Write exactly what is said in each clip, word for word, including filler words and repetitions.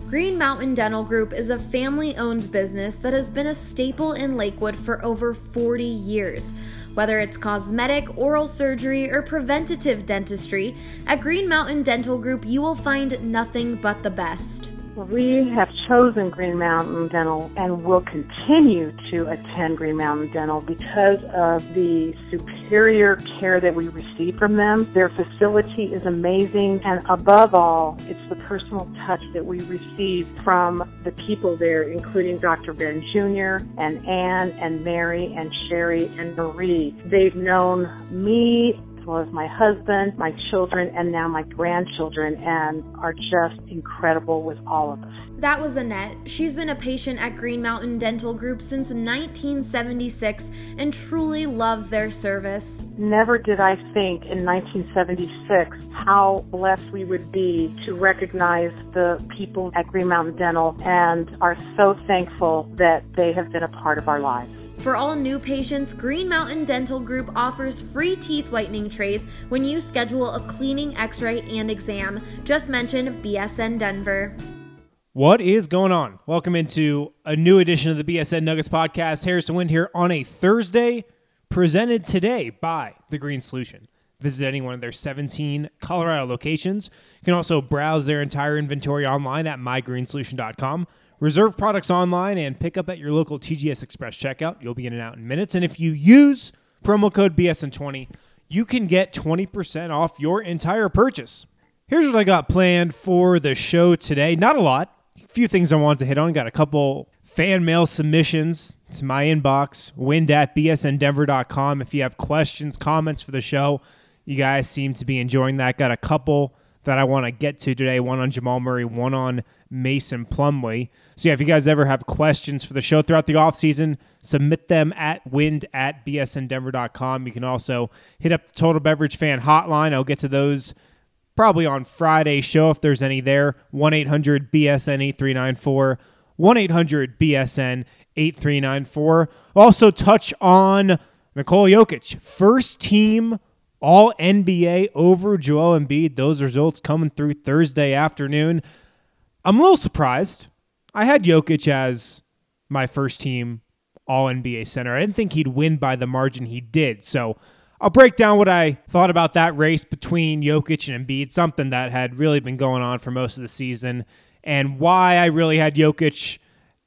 Green Mountain Dental Group is a family-owned business that has been a staple in Lakewood for over forty years. Whether it's cosmetic, oral surgery, or preventative dentistry, at Green Mountain Dental Group you will find nothing but the best. We have chosen Green Mountain Dental and will continue to attend Green Mountain Dental because of the superior care that we receive from them. Their facility is amazing, and above all, it's the personal touch that we receive from the people there, including Doctor Ben Junior and Ann and Mary and Sherry and Marie. They've known me as well as my husband, my children, and now my grandchildren, and are just incredible with all of us. That was Annette. She's been a patient at Green Mountain Dental Group since nineteen seventy-six and truly loves their service. Never did I think in nineteen seventy-six how blessed we would be to recognize the people at Green Mountain Dental, and are so thankful that they have been a part of our lives. For all new patients, Green Mountain Dental Group offers free teeth whitening trays when you schedule a cleaning, x-ray, and exam. Just mention B S N Denver. What is going on? Welcome into a new edition of the B S N Nuggets podcast. Harrison Wind here on a Thursday, presented today by The Green Solution. Visit any one of their seventeen Colorado locations. You can also browse their entire inventory online at my green solution dot com. Reserve products online and pick up at your local T G S Express checkout. You'll be in and out in minutes. And if you use promo code B S N twenty, you can get twenty percent off your entire purchase. Here's what I got planned for the show today. Not a lot. A few things I wanted to hit on. Got a couple fan mail submissions to my inbox, wind at b s n denver dot com. If you have questions, comments for the show, you guys seem to be enjoying that. Got a couple that I want to get to today. One on Jamal Murray, one on Mason Plumlee. So yeah, if you guys ever have questions for the show throughout the offseason, submit them at wind at b s n denver dot com. You can also hit up the Total Beverage Fan Hotline. I'll get to those probably on Friday's show if there's any there. one eight hundred B S N eight three nine four. one eight hundred B S N eight three nine four. Also touch on Nikola Jokic. First team All N B A over Joel Embiid. Those results coming through Thursday afternoon. I'm a little surprised. I had Jokic as my first team All N B A center. I didn't think he'd win by the margin he did. So I'll break down what I thought about that race between Jokic and Embiid, something that had really been going on for most of the season, and why I really had Jokic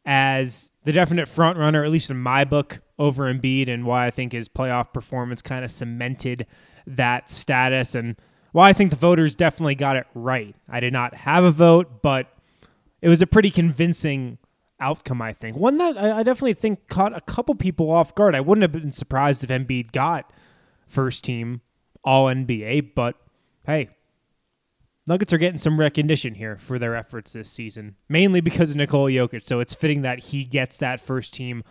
as the definite front runner, at least in my book, over Embiid, and why I think his playoff performance kind of cemented that status, and why I think the voters definitely got it right. I did not have a vote, but it was a pretty convincing outcome, I think. One that I definitely think caught a couple people off guard. I wouldn't have been surprised if Embiid got first team All N B A, but hey, Nuggets are getting some recognition here for their efforts this season, mainly because of Nikola Jokic, so it's fitting that he gets that first team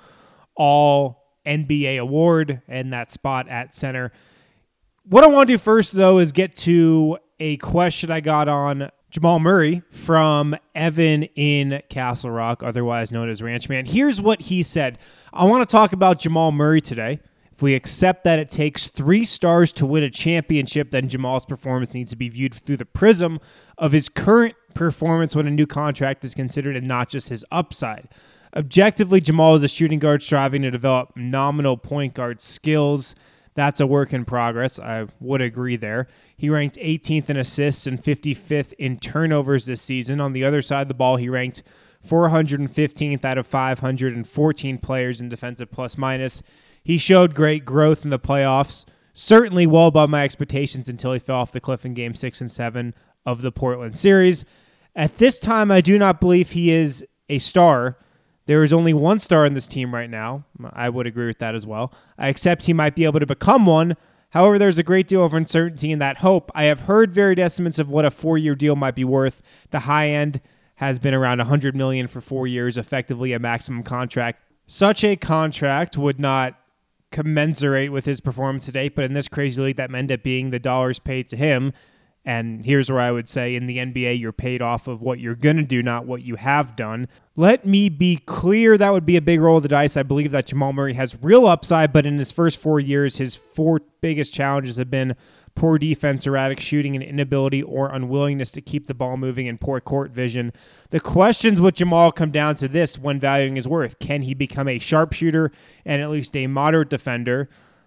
All N B A award and that spot at center. What I want to do first, though, is get to a question I got on Jamal Murray from Evan in Castle Rock, otherwise known as Ranchman. Here's what he said. I want to talk about Jamal Murray today. If we accept that it takes three stars to win a championship, then Jamal's performance needs to be viewed through the prism of his current performance when a new contract is considered and not just his upside. Objectively, Jamal is a shooting guard striving to develop nominal point guard skills. That's a work in progress. I would agree there. He ranked eighteenth in assists and fifty-fifth in turnovers this season. On the other side of the ball, he ranked four hundred fifteenth out of five hundred fourteen players in defensive plus-minus. He showed great growth in the playoffs, certainly well above my expectations until he fell off the cliff in Game six and seven of the Portland series. At this time, I do not believe he is a star. There is only one star in this team right now. I would agree with that as well. I accept he might be able to become one. However, there's a great deal of uncertainty in that hope. I have heard varied estimates of what a four-year deal might be worth. The high end has been around one hundred million dollars for four years, effectively a maximum contract. Such a contract would not commensurate with his performance to date, but in this crazy league, that ended up being the dollars paid to him. And here's where I would say in the N B A, you're paid off of what you're going to do, not what you have done. Let me be clear, that would be a big roll of the dice. I believe that Jamal Murray has real upside, but in his first four years, his four biggest challenges have been poor defense, erratic shooting, and inability or unwillingness to keep the ball moving, and poor court vision. The questions with Jamal come down to this when valuing his worth. Can he become a sharpshooter and at least a moderate defender?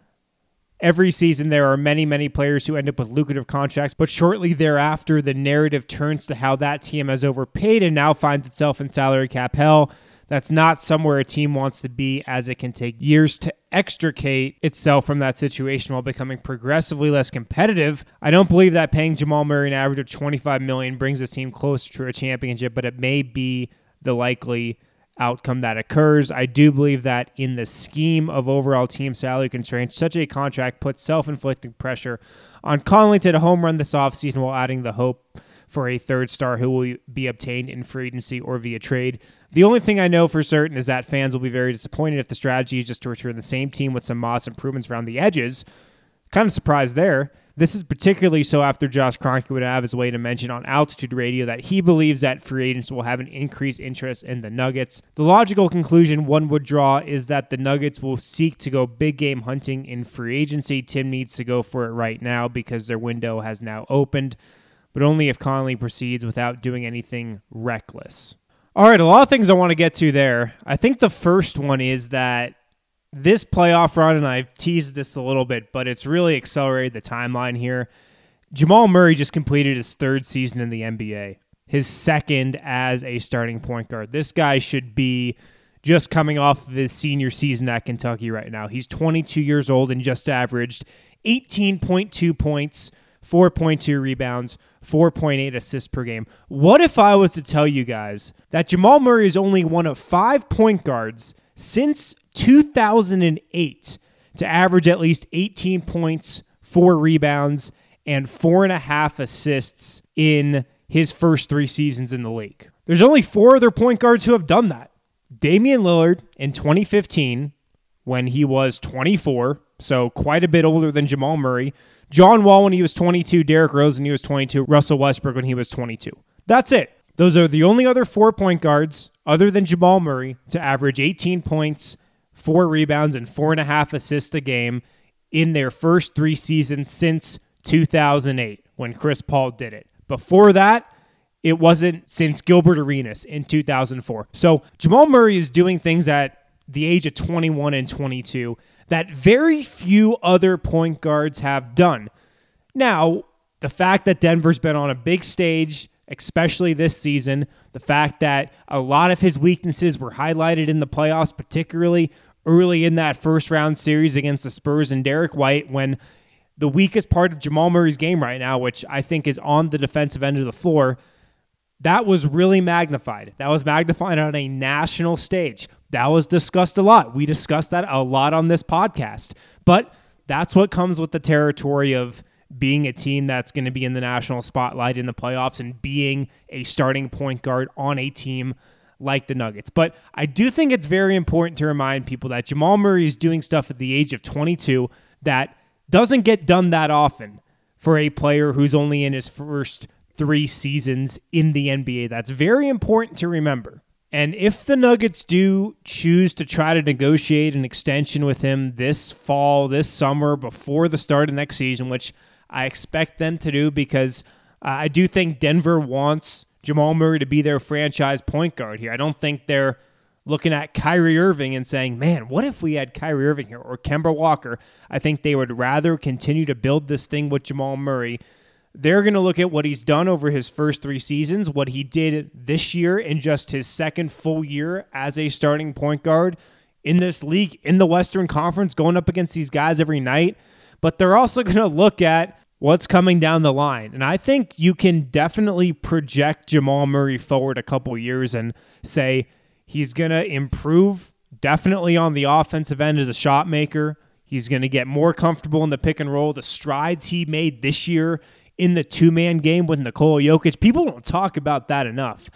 Every season, there are many, many players who end up with lucrative contracts, but shortly thereafter, the narrative turns to how that team has overpaid and now finds itself in salary cap hell. That's not somewhere a team wants to be, as it can take years to extricate itself from that situation while becoming progressively less competitive. I don't believe that paying Jamal Murray an average of twenty-five million dollars brings a team closer to a championship, but it may be the likely outcome that occurs. I do believe that in the scheme of overall team salary constraints, such a contract puts self-inflicted pressure on Conley to home run this offseason while adding the hope for a third star who will be obtained in free agency or via trade. The only thing I know for certain is that fans will be very disappointed if the strategy is just to return the same team with some modest improvements around the edges. Kind of surprised there. This is particularly so after Josh Kroenke would have his way to mention on Altitude Radio that he believes that free agents will have an increased interest in the Nuggets. The logical conclusion one would draw is that the Nuggets will seek to go big game hunting in free agency. Tim needs to go for it right now because their window has now opened, but only if Conley proceeds without doing anything reckless. All right, a lot of things I want to get to there. I think the first one is that this playoff run, and I've teased this a little bit, but it's really accelerated the timeline here. Jamal Murray just completed his third season in the N B A, his second as a starting point guard. This guy should be just coming off of his senior season at Kentucky right now. He's twenty-two years old and just averaged eighteen point two points, four point two rebounds, four point eight assists per game. What if I was to tell you guys that Jamal Murray is only one of five point guards since two thousand eight to average at least eighteen points, four rebounds, and four and a half assists in his first three seasons in the league? There's only four other point guards who have done that. Damian Lillard in twenty fifteen, when he was twenty-four, so quite a bit older than Jamal Murray. John Wall when he was twenty-two, Derrick Rose when he was twenty-two, Russell Westbrook when he was twenty-two. That's it. Those are the only other four point guards other than Jamal Murray to average eighteen points, four rebounds, and four and a half assists a game in their first three seasons since two thousand eight, when Chris Paul did it. Before that, it wasn't since Gilbert Arenas in two thousand four. So Jamal Murray is doing things at the age of twenty-one and twenty-two that very few other point guards have done. Now, the fact that Denver's been on a big stage, especially this season, the fact that a lot of his weaknesses were highlighted in the playoffs, particularly early in that first round series against the Spurs and Derek White, when the weakest part of Jamal Murray's game right now, which I think is on the defensive end of the floor, that was really magnified. That was magnified on a national stage. That was discussed a lot. We discussed that a lot on this podcast. But that's what comes with the territory of being a team that's going to be in the national spotlight in the playoffs and being a starting point guard on a team like the Nuggets. But I do think it's very important to remind people that Jamal Murray is doing stuff at the age of twenty-two that doesn't get done that often for a player who's only in his first three seasons in the N B A. That's very important to remember. And if the Nuggets do choose to try to negotiate an extension with him this fall, this summer, before the start of next season, which I expect them to do, because uh, I do think Denver wants Jamal Murray to be their franchise point guard here. I don't think they're looking at Kyrie Irving and saying, man, what if we had Kyrie Irving here or Kemba Walker? I think they would rather continue to build this thing with Jamal Murray. They're going to look at what he's done over his first three seasons, what he did this year in just his second full year as a starting point guard in this league, in the Western Conference, going up against these guys every night. But they're also going to look at what's coming down the line. And I think you can definitely project Jamal Murray forward a couple years and say he's going to improve definitely on the offensive end as a shot maker. He's going to get more comfortable in the pick and roll. The strides he made this year in the two-man game with Nikola Jokic, people don't talk about that enough.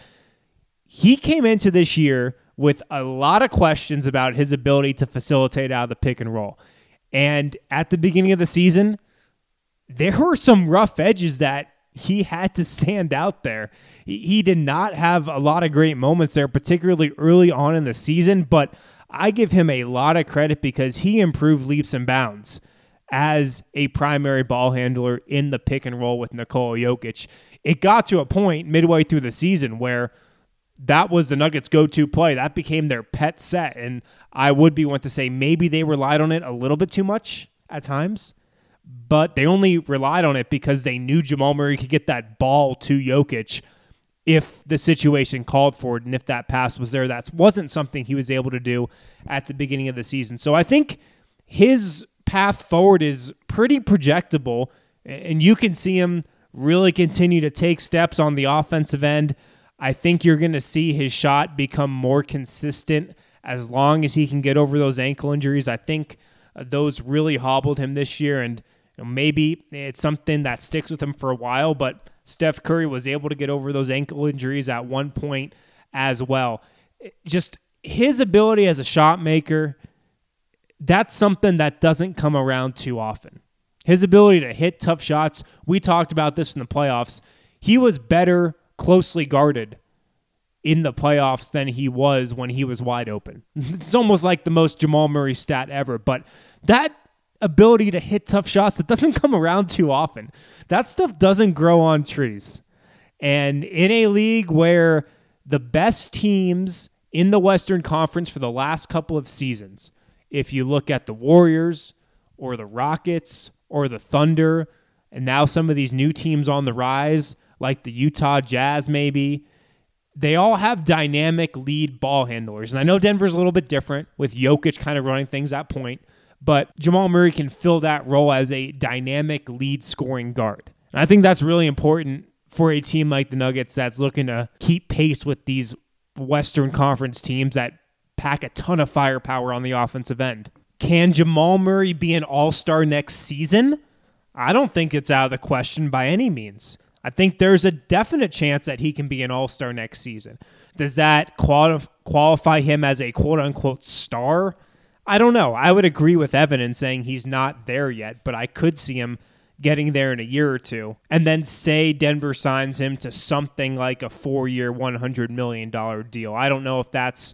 He came into this year with a lot of questions about his ability to facilitate out of the pick and roll. And at the beginning of the season, there were some rough edges that he had to stand out there. He, he did not have a lot of great moments there, particularly early on in the season, but I give him a lot of credit because he improved leaps and bounds as a primary ball handler in the pick and roll with Nikola Jokic. It got to a point midway through the season where that was the Nuggets' go-to play. That became their pet set, and I would be one to say maybe they relied on it a little bit too much at times, but they only relied on it because they knew Jamal Murray could get that ball to Jokic if the situation called for it, and if that pass was there. That wasn't something he was able to do at the beginning of the season. So I think his path forward is pretty projectable, and you can see him really continue to take steps on the offensive end. I think you're going to see his shot become more consistent as long as he can get over those ankle injuries. I think uh, those really hobbled him this year, and you know, maybe it's something that sticks with him for a while, but Steph Curry was able to get over those ankle injuries at one point as well. Just his ability as a shot maker, that's something that doesn't come around too often. His ability to hit tough shots, we talked about this in the playoffs. He was better closely guarded in the playoffs than he was when he was wide open. It's almost like the most Jamal Murray stat ever, but that ability to hit tough shots, that doesn't come around too often. That stuff doesn't grow on trees. And in a league where the best teams in the Western Conference for the last couple of seasons, if you look at the Warriors or the Rockets or the Thunder, and now some of these new teams on the rise, like the Utah Jazz maybe, they all have dynamic lead ball handlers. And I know Denver's a little bit different with Jokic kind of running things at point, but Jamal Murray can fill that role as a dynamic lead scoring guard. And I think that's really important for a team like the Nuggets that's looking to keep pace with these Western Conference teams that pack a ton of firepower on the offensive end. Can Jamal Murray be an all-star next season? I don't think it's out of the question by any means. I think there's a definite chance that he can be an all-star next season. Does that quali- qualify him as a quote-unquote star? I don't know. I would agree with Evan in saying he's not there yet, but I could see him getting there in a year or two. And then say Denver signs him to something like a four-year, one hundred million dollars deal. I don't know if that's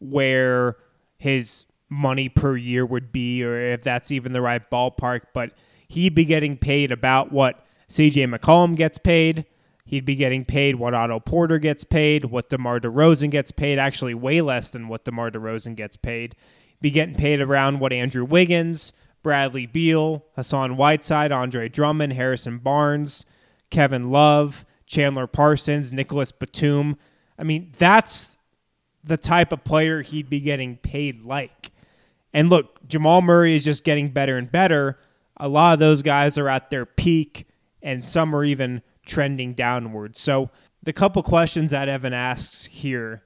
where his money per year would be or if that's even the right ballpark, but he'd be getting paid about what C J McCollum gets paid. He'd be getting paid what Otto Porter gets paid, what DeMar DeRozan gets paid, actually way less than what DeMar DeRozan gets paid. Be getting paid around what Andrew Wiggins, Bradley Beal, Hassan Whiteside, Andre Drummond, Harrison Barnes, Kevin Love, Chandler Parsons, Nicholas Batum. I mean, that's the type of player he'd be getting paid like. And look, Jamal Murray is just getting better and better. A lot of those guys are at their peak, and some are even trending downward. So the couple questions that Evan asks here,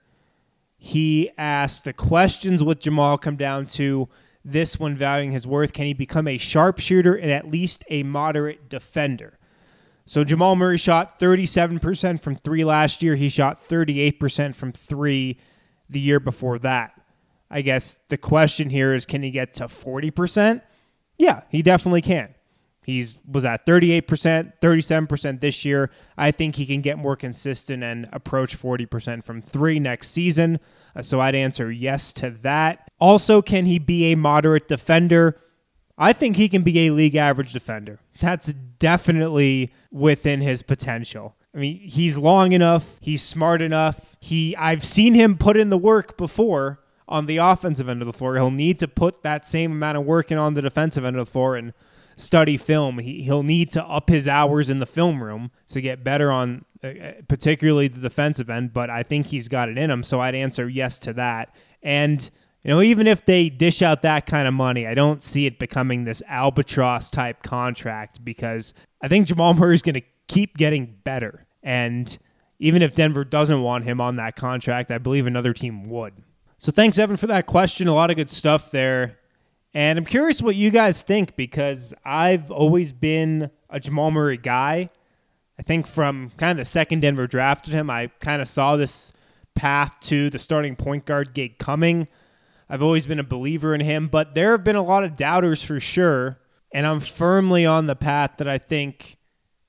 he asks, the questions with Jamal come down to this one valuing his worth. Can he become a sharpshooter and at least a moderate defender? So Jamal Murray shot thirty-seven percent from three last year. He shot thirty-eight percent from three the year before that. I guess the question here is, can he get to forty percent? Yeah, he definitely can. He's was at thirty-eight percent, thirty-seven percent this year. I think he can get more consistent and approach forty percent from three next season. Uh, so I'd answer yes to that. Also, can he be a moderate defender? I think he can be a league average defender. That's definitely within his potential. I mean, he's long enough. He's smart enough. He I've seen him put in the work before on the offensive end of the floor. He'll need to put that same amount of work in on the defensive end of the floor and study film. He, he'll need to up his hours in the film room to get better on uh, particularly the defensive end, but I think he's got it in him, so I'd answer yes to that. And you know, even if they dish out that kind of money, I don't see it becoming this albatross-type contract because I think Jamal Murray's going to keep getting better. And even if Denver doesn't want him on that contract, I believe another team would. So thanks, Evan, for that question. A lot of good stuff there. And I'm curious what you guys think because I've always been a Jamal Murray guy. I think from kind of the second Denver drafted him, I kind of saw this path to the starting point guard gig coming. I've always been a believer in him, but there have been a lot of doubters for sure, and I'm firmly on the path that I think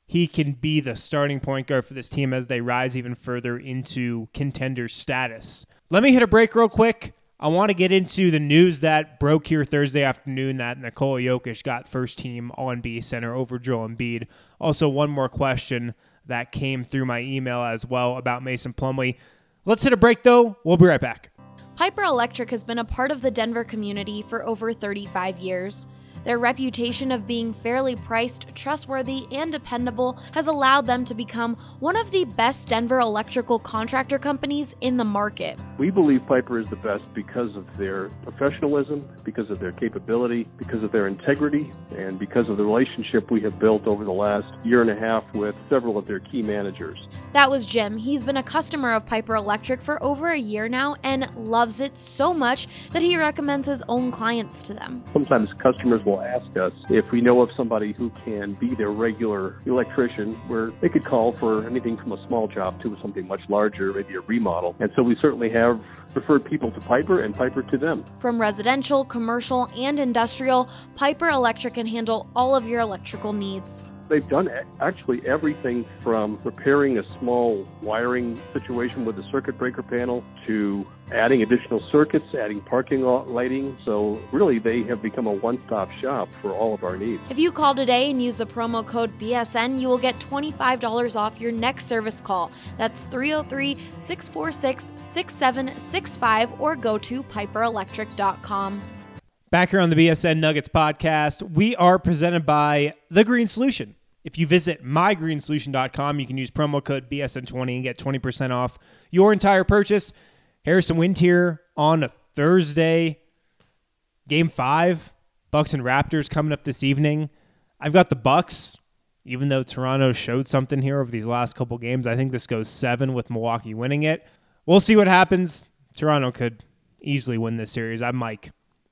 he can be the starting point guard for this team as they rise even further into contender status. Let me hit a break real quick. I want to get into the news that broke here Thursday afternoon that Nikola Jokic got first team All N B A center over Joel Embiid. Also, one more question that came through my email as well about Mason Plumlee. Let's hit a break, though. We'll be right back. Piper Electric has been a part of the Denver community for over thirty-five years. Their reputation of being fairly priced, trustworthy, and dependable has allowed them to become one of the best Denver electrical contractor companies in the market. We believe Piper is the best because of their professionalism, because of their capability, because of their integrity, and because of the relationship we have built over the last year and a half with several of their key managers. That was Jim. He's been a customer of Piper Electric for over a year now and loves it so much that he recommends his own clients to them. Sometimes customers will ask us if we know of somebody who can be their regular electrician, where they could call for anything from a small job to something much larger, maybe a remodel. And so we certainly have referred people to Piper and Piper to them. From residential, commercial, and industrial, Piper Electric can handle all of your electrical needs. They've done actually everything from repairing a small wiring situation with a circuit breaker panel to adding additional circuits, adding parking lot lighting. So really, they have become a one-stop shop for all of our needs. If you call today and use the promo code B S N, you will get twenty-five dollars off your next service call. That's three oh three, six four six, six seven six five or go to piper electric dot com. Back here on the B S N Nuggets podcast, we are presented by The Green Solution. If you visit my green solution dot com, you can use promo code B S N twenty and get twenty percent off your entire purchase. Harrison Wind here on a Thursday. Game five, Bucks and Raptors coming up this evening. I've got the Bucks, even though Toronto showed something here over these last couple games. I think this goes seven with Milwaukee winning it. We'll see what happens. Toronto could easily win this series. I'm like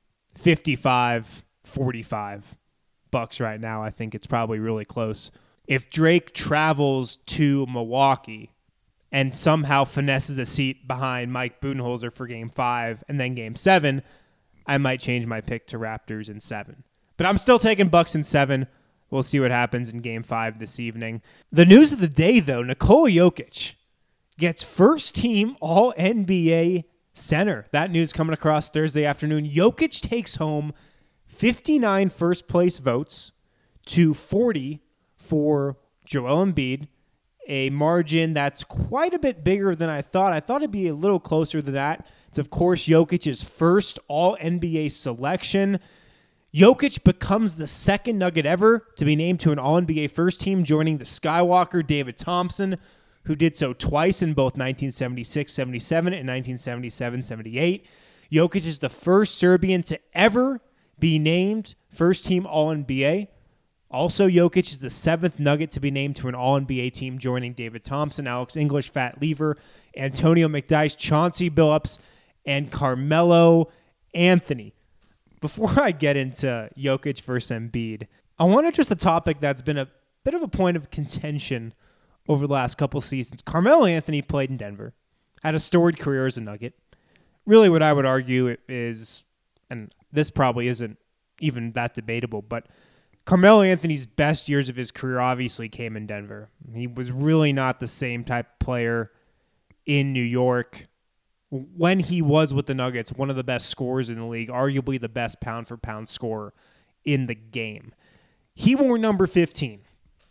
fifty-five forty-five Bucks right now. I think it's probably really close. If Drake travels to Milwaukee and somehow finesses a seat behind Mike Budenholzer for game five and then game seven, I might change my pick to Raptors in seven. But I'm still taking Bucks in seven. We'll see what happens in game five this evening. The news of the day, though, Nikola Jokic gets first team All N B A center. That news coming across Thursday afternoon. Jokic takes home fifty-nine first place votes to forty for Joel Embiid, a margin that's quite a bit bigger than I thought. I thought it'd be a little closer than that. It's, of course, Jokic's first All N B A selection. Jokic becomes the second Nugget ever to be named to an All N B A first team, joining the Skywalker David Thompson, who did so twice in both nineteen seventy-six seventy-seven and nineteen seventy-seven seventy-eight. Jokic is the first Serbian to ever be named first team All N B A. Also, Jokic is the seventh Nugget to be named to an All N B A team, joining David Thompson, Alex English, Fat Lever, Antonio McDyess, Chauncey Billups, and Carmelo Anthony. Before I get into Jokic versus Embiid, I want to address a topic that's been a bit of a point of contention over the last couple seasons. Carmelo Anthony played in Denver, had a storied career as a Nugget. Really what I would argue is, and this probably isn't even that debatable, but Carmelo Anthony's best years of his career obviously came in Denver. He was really not the same type of player in New York. When he was with the Nuggets, one of the best scorers in the league, arguably the best pound-for-pound scorer in the game. He wore number fifteen.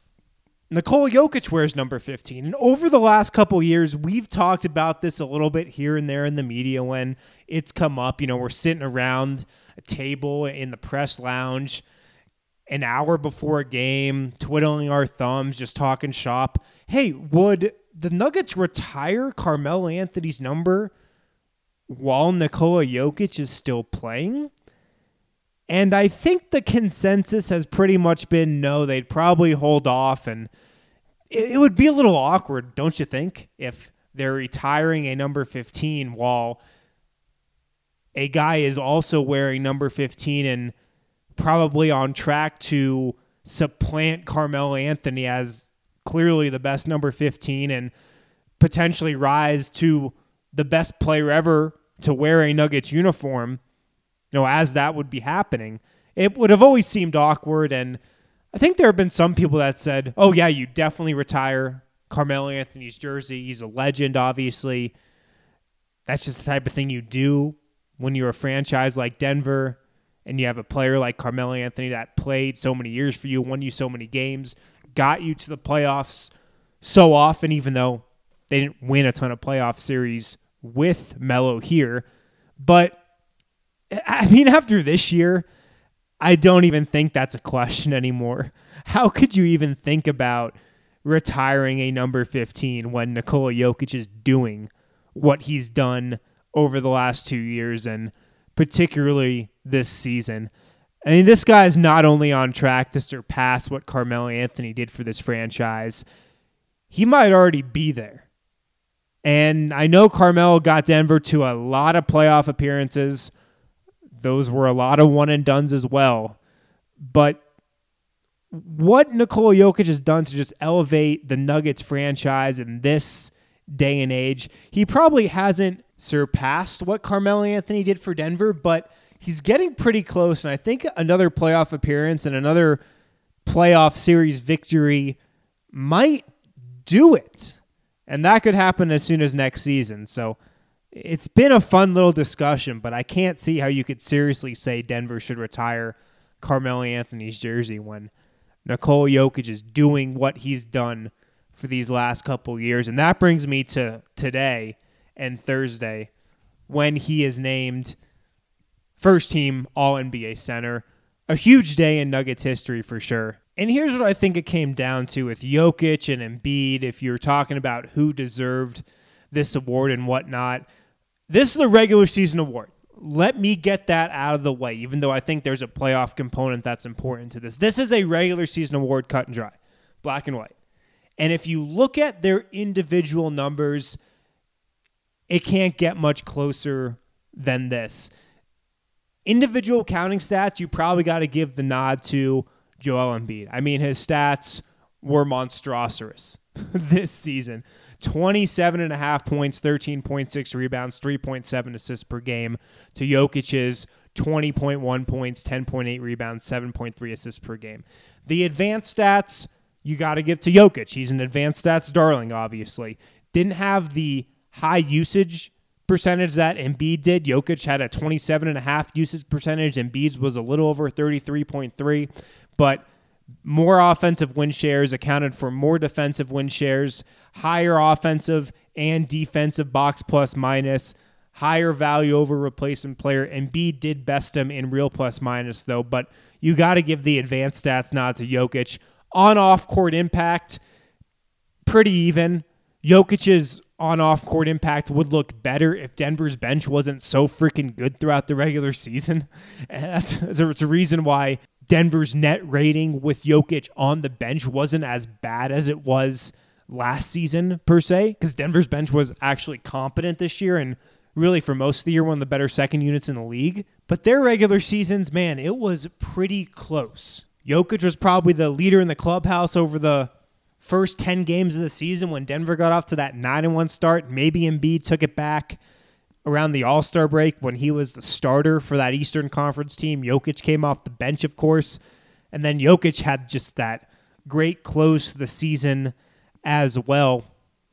Nikola Jokic wears number fifteen. And over the last couple years, we've talked about this a little bit here and there in the media when it's come up. You know, we're sitting around a table in the press lounge an hour before a game, twiddling our thumbs, just talking shop. Hey, would the Nuggets retire Carmelo Anthony's number while Nikola Jokic is still playing? And I think the consensus has pretty much been no, they'd probably hold off, and it, it would be a little awkward, don't you think, if they're retiring a number fifteen while a guy is also wearing number fifteen and probably on track to supplant Carmelo Anthony as clearly the best number fifteen and potentially rise to the best player ever to wear a Nuggets uniform, you know, as that would be happening. It would have always seemed awkward, and I think there have been some people that said, oh, yeah, you definitely retire Carmelo Anthony's jersey. He's a legend, obviously. That's just the type of thing you do when you're a franchise like Denver and you have a player like Carmelo Anthony that played so many years for you, won you so many games, got you to the playoffs so often, even though they didn't win a ton of playoff series with Melo here. But, I mean, after this year, I don't even think that's a question anymore. How could you even think about retiring a number fifteen when Nikola Jokic is doing what he's done over the last two years and particularly this season? I mean, this guy is not only on track to surpass what Carmelo Anthony did for this franchise, he might already be there. And I know Carmelo got Denver to a lot of playoff appearances. Those were a lot of one-and-dones as well. But what Nikola Jokic has done to just elevate the Nuggets franchise in this day and age, he probably hasn't surpassed what Carmelo Anthony did for Denver, but he's getting pretty close. And I think another playoff appearance and another playoff series victory might do it. And that could happen as soon as next season. So it's been a fun little discussion, but I can't see how you could seriously say Denver should retire Carmelo Anthony's jersey when Nikola Jokic is doing what he's done for these last couple years. And that brings me to today and Thursday when he is named first team All N B A center. A huge day in Nuggets history for sure. And here's what I think it came down to with Jokic and Embiid, if you're talking about who deserved this award and whatnot. This is a regular season award. Let me get that out of the way, even though I think there's a playoff component that's important to this. This is a regular season award, cut and dry, black and white. And if you look at their individual numbers, it can't get much closer than this. Individual counting stats, you probably got to give the nod to Joel Embiid. I mean, his stats were monstrous this season. twenty-seven and a half points, thirteen point six rebounds, three point seven assists per game to Jokic's twenty point one points, ten point eight rebounds, seven point three assists per game. The advanced stats, you got to give to Jokic. He's an advanced stats darling, obviously. Didn't have the high usage percentage that Embiid did. Jokic had a twenty-seven and a half usage percentage. Embiid's was a little over thirty-three point three, but more offensive win shares accounted for more defensive win shares, higher offensive and defensive box plus minus, higher value over replacement player. Embiid did best him in real plus minus though, but you got to give the advanced stats nod to Jokic. On off-court impact, pretty even. Jokic's on off-court impact would look better if Denver's bench wasn't so freaking good throughout the regular season. And that's, that's a reason why Denver's net rating with Jokic on the bench wasn't as bad as it was last season, per se, because Denver's bench was actually competent this year and really for most of the year one of the better second units in the league. But their regular seasons, man, it was pretty close. Jokic was probably the leader in the clubhouse over the first ten games of the season when Denver got off to that nine and one start. Maybe Embiid took it back around the All-Star break when he was the starter for that Eastern Conference team. Jokic came off the bench, of course. And then Jokic had just that great close to the season as well.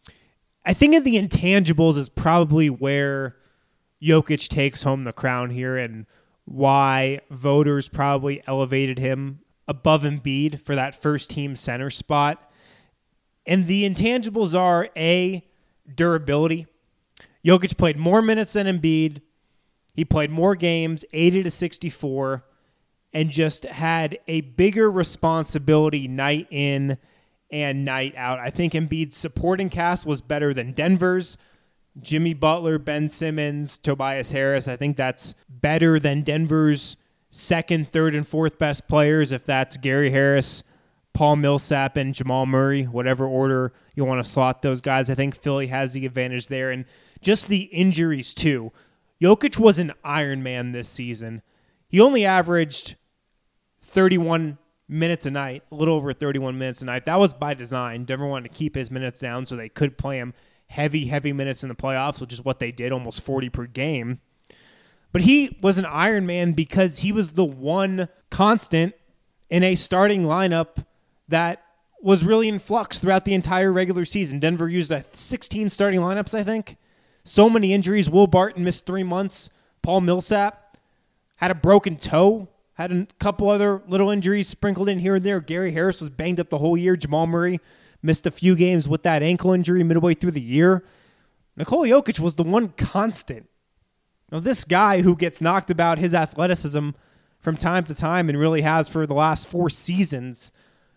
I think of the intangibles is probably where Jokic takes home the crown here and why voters probably elevated him above Embiid for that first team center spot. And the intangibles are, A, durability. Jokic played more minutes than Embiid. He played more games, eighty to sixty-four, and just had a bigger responsibility night in and night out. I think Embiid's supporting cast was better than Denver's. Jimmy Butler, Ben Simmons, Tobias Harris. I think that's better than Denver's second, third, and fourth best players, if that's Gary Harris, Paul Millsap, and Jamal Murray, whatever order you want to slot those guys. I think Philly has the advantage there. And just the injuries, too. Jokic was an Iron Man this season. He only averaged thirty-one minutes a night, a little over thirty-one minutes a night. That was by design. Denver wanted to keep his minutes down so they could play him heavy, heavy minutes in the playoffs, which is what they did, almost forty per game. But he was an Iron Man because he was the one constant in a starting lineup that was really in flux throughout the entire regular season. Denver used uh, sixteen starting lineups, I think. So many injuries. Will Barton missed three months. Paul Millsap had a broken toe. Had a couple other little injuries sprinkled in here and there. Gary Harris was banged up the whole year. Jamal Murray missed a few games with that ankle injury midway through the year. Nikola Jokic was the one constant. Now, this guy who gets knocked about his athleticism from time to time and really has for the last four seasons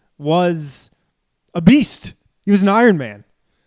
was a beast. He was an Iron Man.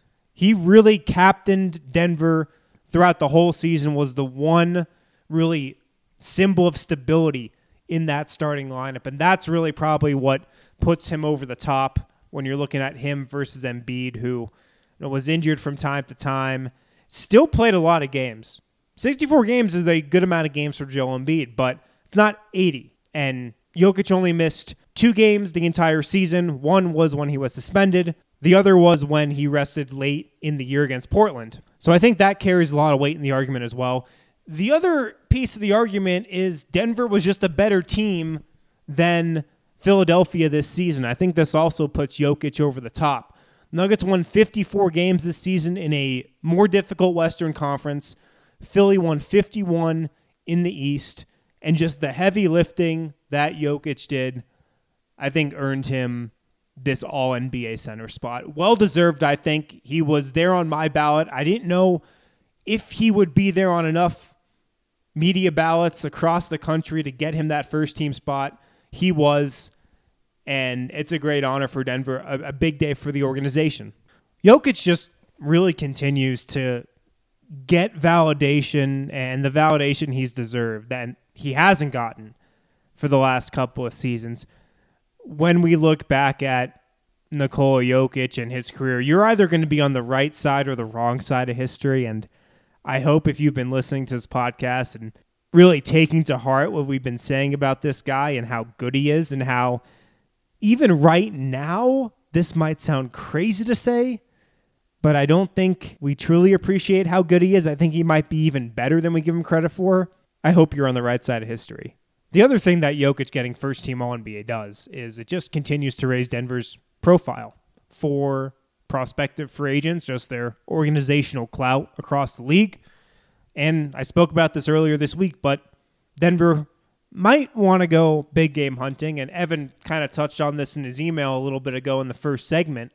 He really captained Denver throughout the whole season, was the one really symbol of stability in that starting lineup. And that's really probably what puts him over the top when you're looking at him versus Embiid, who you know, was injured from time to time, still played a lot of games. sixty-four games is a good amount of games for Joel Embiid, but it's not eighty. And Jokic only missed two games the entire season. One was when he was suspended. The other was when he rested late in the year against Portland. So I think that carries a lot of weight in the argument as well. The other piece of the argument is Denver was just a better team than Philadelphia this season. I think this also puts Jokic over the top. Nuggets won fifty-four games this season in a more difficult Western Conference. Philly won fifty-one in the East. And just the heavy lifting that Jokic did, I think, earned him this all-N B A center spot. Well-deserved, I think. He was there on my ballot. I didn't know if he would be there on enough media ballots across the country to get him that first-team spot. He was, and it's a great honor for Denver, a, a big day for the organization. Jokic just really continues to get validation, and the validation he's deserved that he hasn't gotten for the last couple of seasons. When we look back at Nikola Jokic and his career, you're either going to be on the right side or the wrong side of history, and I hope if you've been listening to this podcast and really taking to heart what we've been saying about this guy and how good he is and how even right now, this might sound crazy to say, but I don't think we truly appreciate how good he is. I think he might be even better than we give him credit for. I hope you're on the right side of history. The other thing that Jokic getting first-team All N B A does is it just continues to raise Denver's profile for prospective free agents, just their organizational clout across the league. And I spoke about this earlier this week, but Denver might want to go big game hunting, and Evan kind of touched on this in his email a little bit ago in the first segment.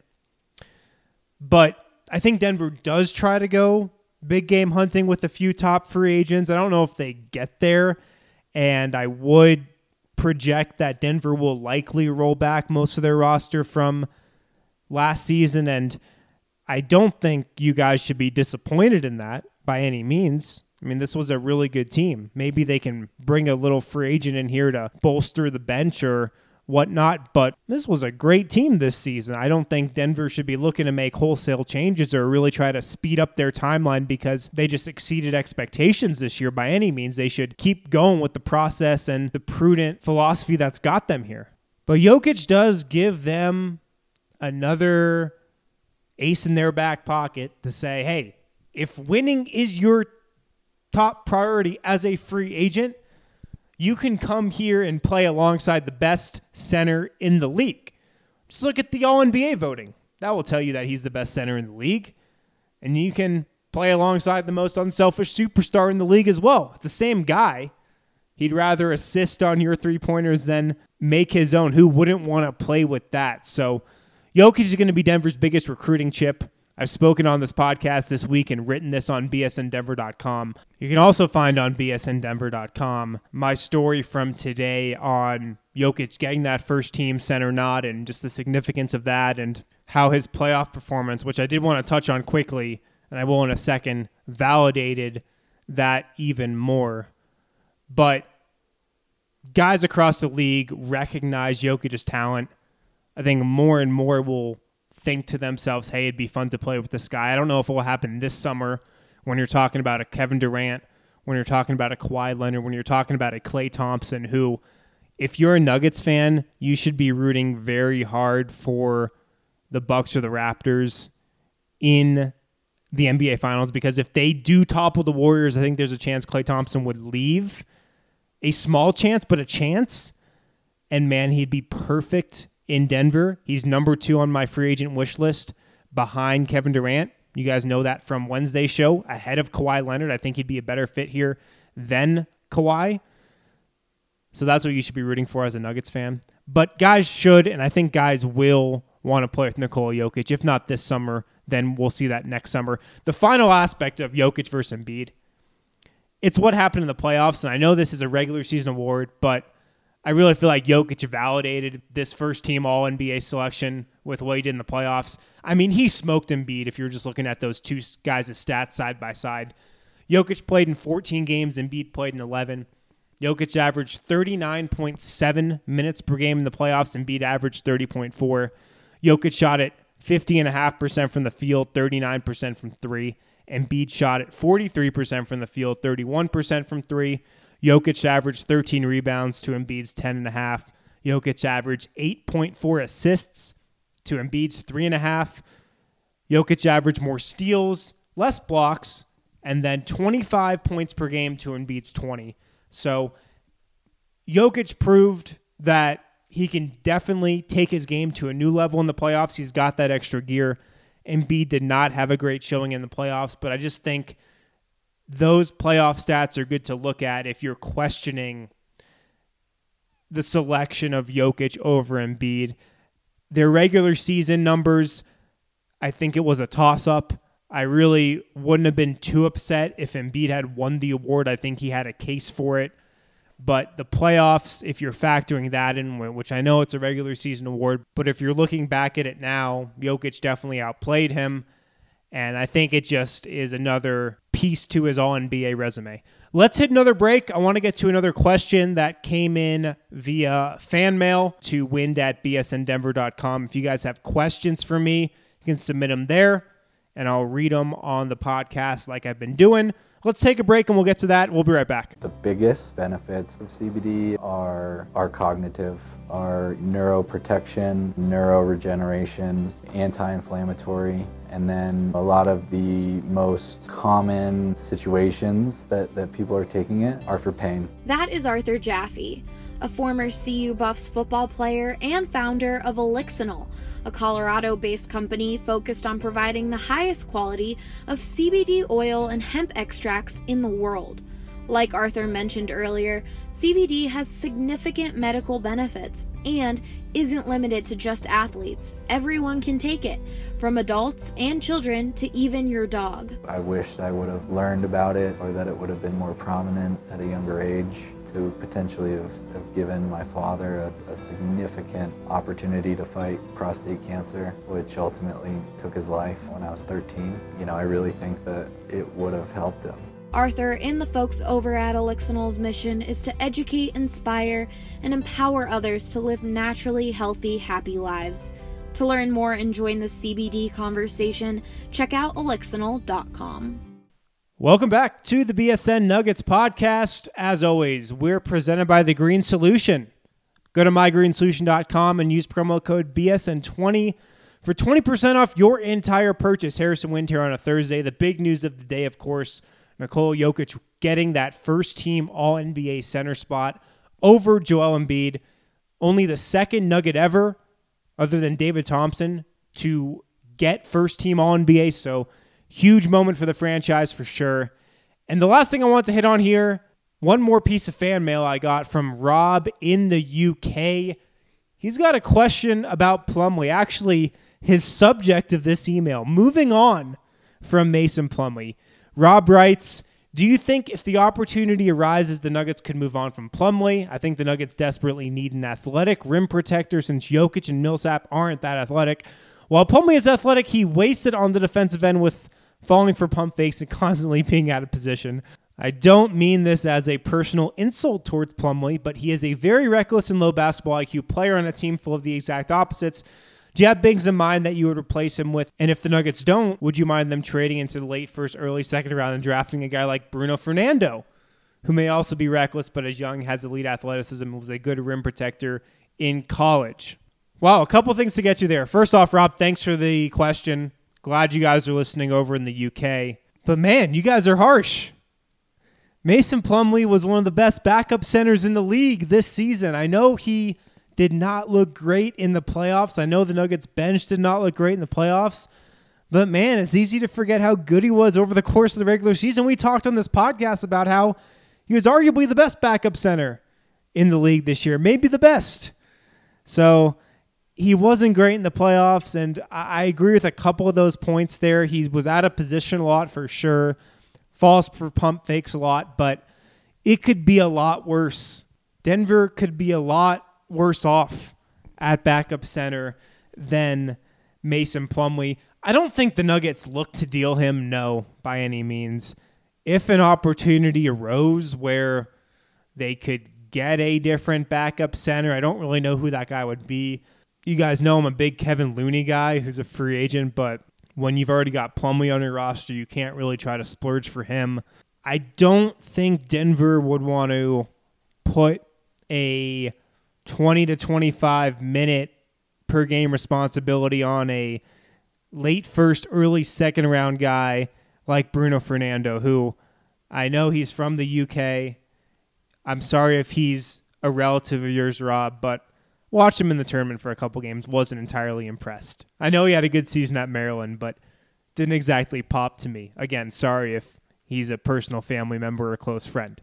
But I think Denver does try to go big game hunting with a few top free agents. I don't know if they get there, and I would project that Denver will likely roll back most of their roster from last season, and I don't think you guys should be disappointed in that by any means. I mean, this was a really good team. Maybe they can bring a little free agent in here to bolster the bench or whatnot, but this was a great team this season. I don't think Denver should be looking to make wholesale changes or really try to speed up their timeline because they just exceeded expectations this year by any means. They should keep going with the process and the prudent philosophy that's got them here. But Jokic does give them another ace in their back pocket to say, hey, if winning is your top priority as a free agent, you can come here and play alongside the best center in the league. Just look at the All N B A voting. That will tell you that he's the best center in the league. And you can play alongside the most unselfish superstar in the league as well. It's the same guy. He'd rather assist on your three-pointers than make his own. Who wouldn't want to play with that? So Jokic is going to be Denver's biggest recruiting chip. I've spoken on this podcast this week and written this on B S N Denver dot com. You can also find on B S N Denver dot com my story from today on Jokic getting that first-team center nod and just the significance of that and how his playoff performance, which I did want to touch on quickly, and I will in a second, validated that even more. But guys across the league recognize Jokic's talent. I think more and more will think to themselves, hey, it'd be fun to play with this guy. I don't know if it will happen this summer when you're talking about a Kevin Durant, when you're talking about a Kawhi Leonard, when you're talking about a Klay Thompson, who, if you're a Nuggets fan, you should be rooting very hard for the Bucks or the Raptors in the N B A Finals, because if they do topple the Warriors, I think there's a chance Klay Thompson would leave. A small chance, but a chance. And man, he'd be perfect in Denver. He's number two on my free agent wish list behind Kevin Durant. You guys know that from Wednesday's show, ahead of Kawhi Leonard. I think he'd be a better fit here than Kawhi. So that's what you should be rooting for as a Nuggets fan. But guys should, and I think guys will want to play with Nikola Jokic. If not this summer, then we'll see that next summer. The final aspect of Jokic versus Embiid, it's what happened in the playoffs. And I know this is a regular season award, but I really feel like Jokic validated this first team All N B A selection with what he did in the playoffs. I mean, he smoked Embiid if you're just looking at those two guys' stats side by side. Jokic played in fourteen games, Embiid played in eleven. Jokic averaged thirty-nine point seven minutes per game in the playoffs, Embiid averaged thirty point four. Jokic shot at fifty point five percent from the field, thirty-nine percent from three. Embiid shot at forty-three percent from the field, thirty-one percent from three. Jokic averaged thirteen rebounds to Embiid's ten point five. Jokic averaged eight point four assists to Embiid's three point five. Jokic averaged more steals, less blocks, and then twenty-five points per game to Embiid's twenty. So Jokic proved that he can definitely take his game to a new level in the playoffs. He's got that extra gear. Embiid did not have a great showing in the playoffs, but I just think those playoff stats are good to look at if you're questioning the selection of Jokic over Embiid. Their regular season numbers, I think it was a toss-up. I really wouldn't have been too upset if Embiid had won the award. I think he had a case for it. But the playoffs, if you're factoring that in, which I know it's a regular season award, but if you're looking back at it now, Jokic definitely outplayed him. And I think it just is another piece to his All N B A resume. Let's hit another break. I want to get to another question that came in via fan mail to wind at b s n denver dot com. If you guys have questions for me, you can submit them there, and I'll read them on the podcast like I've been doing. Let's take a break, and we'll get to that. We'll be right back. The biggest benefits of C B D are, are cognitive, are neuroprotection, neuroregeneration, anti-inflammatory, and then a lot of the most common situations that, that people are taking it are for pain. That is Arthur Jaffe, a former C U Buffs football player and founder of Elixinol, a Colorado-based company focused on providing the highest quality of C B D oil and hemp extracts in the world. Like Arthur mentioned earlier, C B D has significant medical benefits and isn't limited to just athletes. Everyone can take it, from adults and children to even your dog. I wished I would have learned about it, or that it would have been more prominent at a younger age, to potentially have, have given my father a, a significant opportunity to fight prostate cancer, which ultimately took his life when I was thirteen. You know, I really think that it would have helped him. Arthur and the folks over at Elixinol's mission is to educate, inspire, and empower others to live naturally healthy, happy lives. To learn more and join the C B D conversation, check out elixinol dot com. Welcome back to the B S N Nuggets podcast. As always, we're presented by The Green Solution. Go to my green solution dot com and use promo code B S N twenty for twenty percent off your entire purchase. Harrison Wind here on a Thursday. The big news of the day, of course, Nikola Jokic getting that first team All N B A center spot over Joel Embiid. Only the second Nugget ever, other than David Thompson, to get first team All N B A. So huge moment for the franchise for sure. And the last thing I want to hit on here, one more piece of fan mail I got from Rob in the U K. He's got a question about Plumlee. Actually, his subject of this email, moving on from Mason Plumlee. Rob writes, do you think if the opportunity arises, the Nuggets could move on from Plumlee? I think the Nuggets desperately need an athletic rim protector since Jokic and Millsap aren't that athletic. While Plumlee is athletic, he wasted on the defensive end with falling for pump fakes and constantly being out of position. I don't mean this as a personal insult towards Plumlee, but he is a very reckless and low basketball I Q player on a team full of the exact opposites. Do you have bigs in mind that you would replace him with? And if the Nuggets don't, would you mind them trading into the late first, early second round and drafting a guy like Bruno Fernando, who may also be reckless but is young, has elite athleticism, and was a good rim protector in college? Wow, a couple things to get to there. First off, Rob, thanks for the question. Glad you guys are listening over in the U K. But man, you guys are harsh. Mason Plumlee was one of the best backup centers in the league this season. I know he did not look great in the playoffs. I know the Nuggets bench did not look great in the playoffs, but man, it's easy to forget how good he was over the course of the regular season. We talked on this podcast about how he was arguably the best backup center in the league this year, maybe the best. So he wasn't great in the playoffs, and I agree with a couple of those points there. He was out of position a lot for sure, falls for pump fakes a lot, but it could be a lot worse. Denver could be a lot worse off at backup center than Mason Plumlee. I don't think the Nuggets look to deal him, no, by any means. If an opportunity arose where they could get a different backup center, I don't really know who that guy would be. You guys know I'm a big Kevin Looney guy who's a free agent, but when you've already got Plumlee on your roster, you can't really try to splurge for him. I don't think Denver would want to put a twenty to twenty-five minute per game responsibility on a late first, early second round guy like Bruno Fernando, who I know he's from the U K. I'm sorry if he's a relative of yours, Rob, but watched him in the tournament for a couple games, wasn't entirely impressed. I know he had a good season at Maryland, but didn't exactly pop to me. Again, sorry if he's a personal family member or a close friend.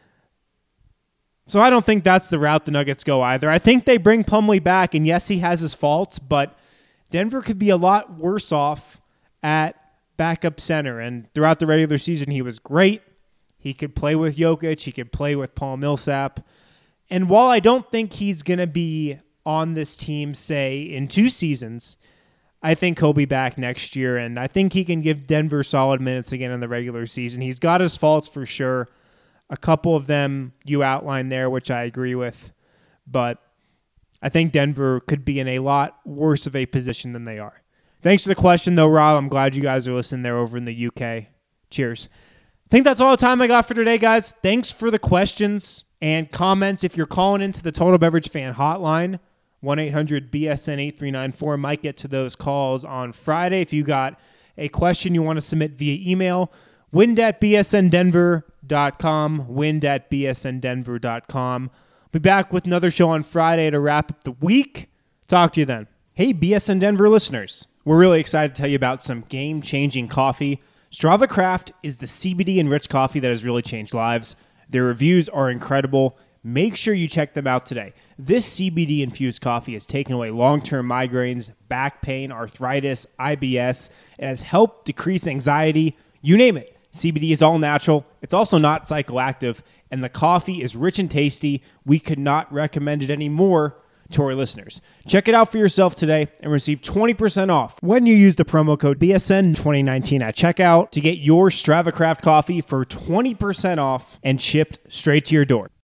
So I don't think that's the route the Nuggets go either. I think they bring Plumlee back, and yes, he has his faults, but Denver could be a lot worse off at backup center. And throughout the regular season, he was great. He could play with Jokic. He could play with Paul Millsap. And while I don't think he's going to be on this team, say, in two seasons, I think he'll be back next year, and I think he can give Denver solid minutes again in the regular season. He's got his faults for sure. A couple of them you outlined there, which I agree with, but I think Denver could be in a lot worse of a position than they are. Thanks for the question, though, Rob. I'm glad you guys are listening there over in the U K. Cheers. I think that's all the time I got for today, guys. Thanks for the questions and comments. If you're calling into the Total Beverage Fan hotline, one eight hundred B S N eight three nine four, might get to those calls on Friday. If you got a question you want to submit via email, wind at b s n denver dot com, wind at b s n denver dot com. Be back with another show on Friday to wrap up the week. Talk to you then. Hey, B S N Denver listeners. We're really excited to tell you about some game-changing coffee. Strava Craft is the C B D-enriched coffee that has really changed lives. Their reviews are incredible. Make sure you check them out today. This C B D-infused coffee has taken away long-term migraines, back pain, arthritis, I B S. It has helped decrease anxiety. You name it. C B D is all natural. It's also not psychoactive, and the coffee is rich and tasty. We could not recommend it any more to our listeners. Check it out for yourself today and receive twenty percent off when you use the promo code B S N twenty nineteen at checkout to get your Strava Craft coffee for twenty percent off and shipped straight to your door.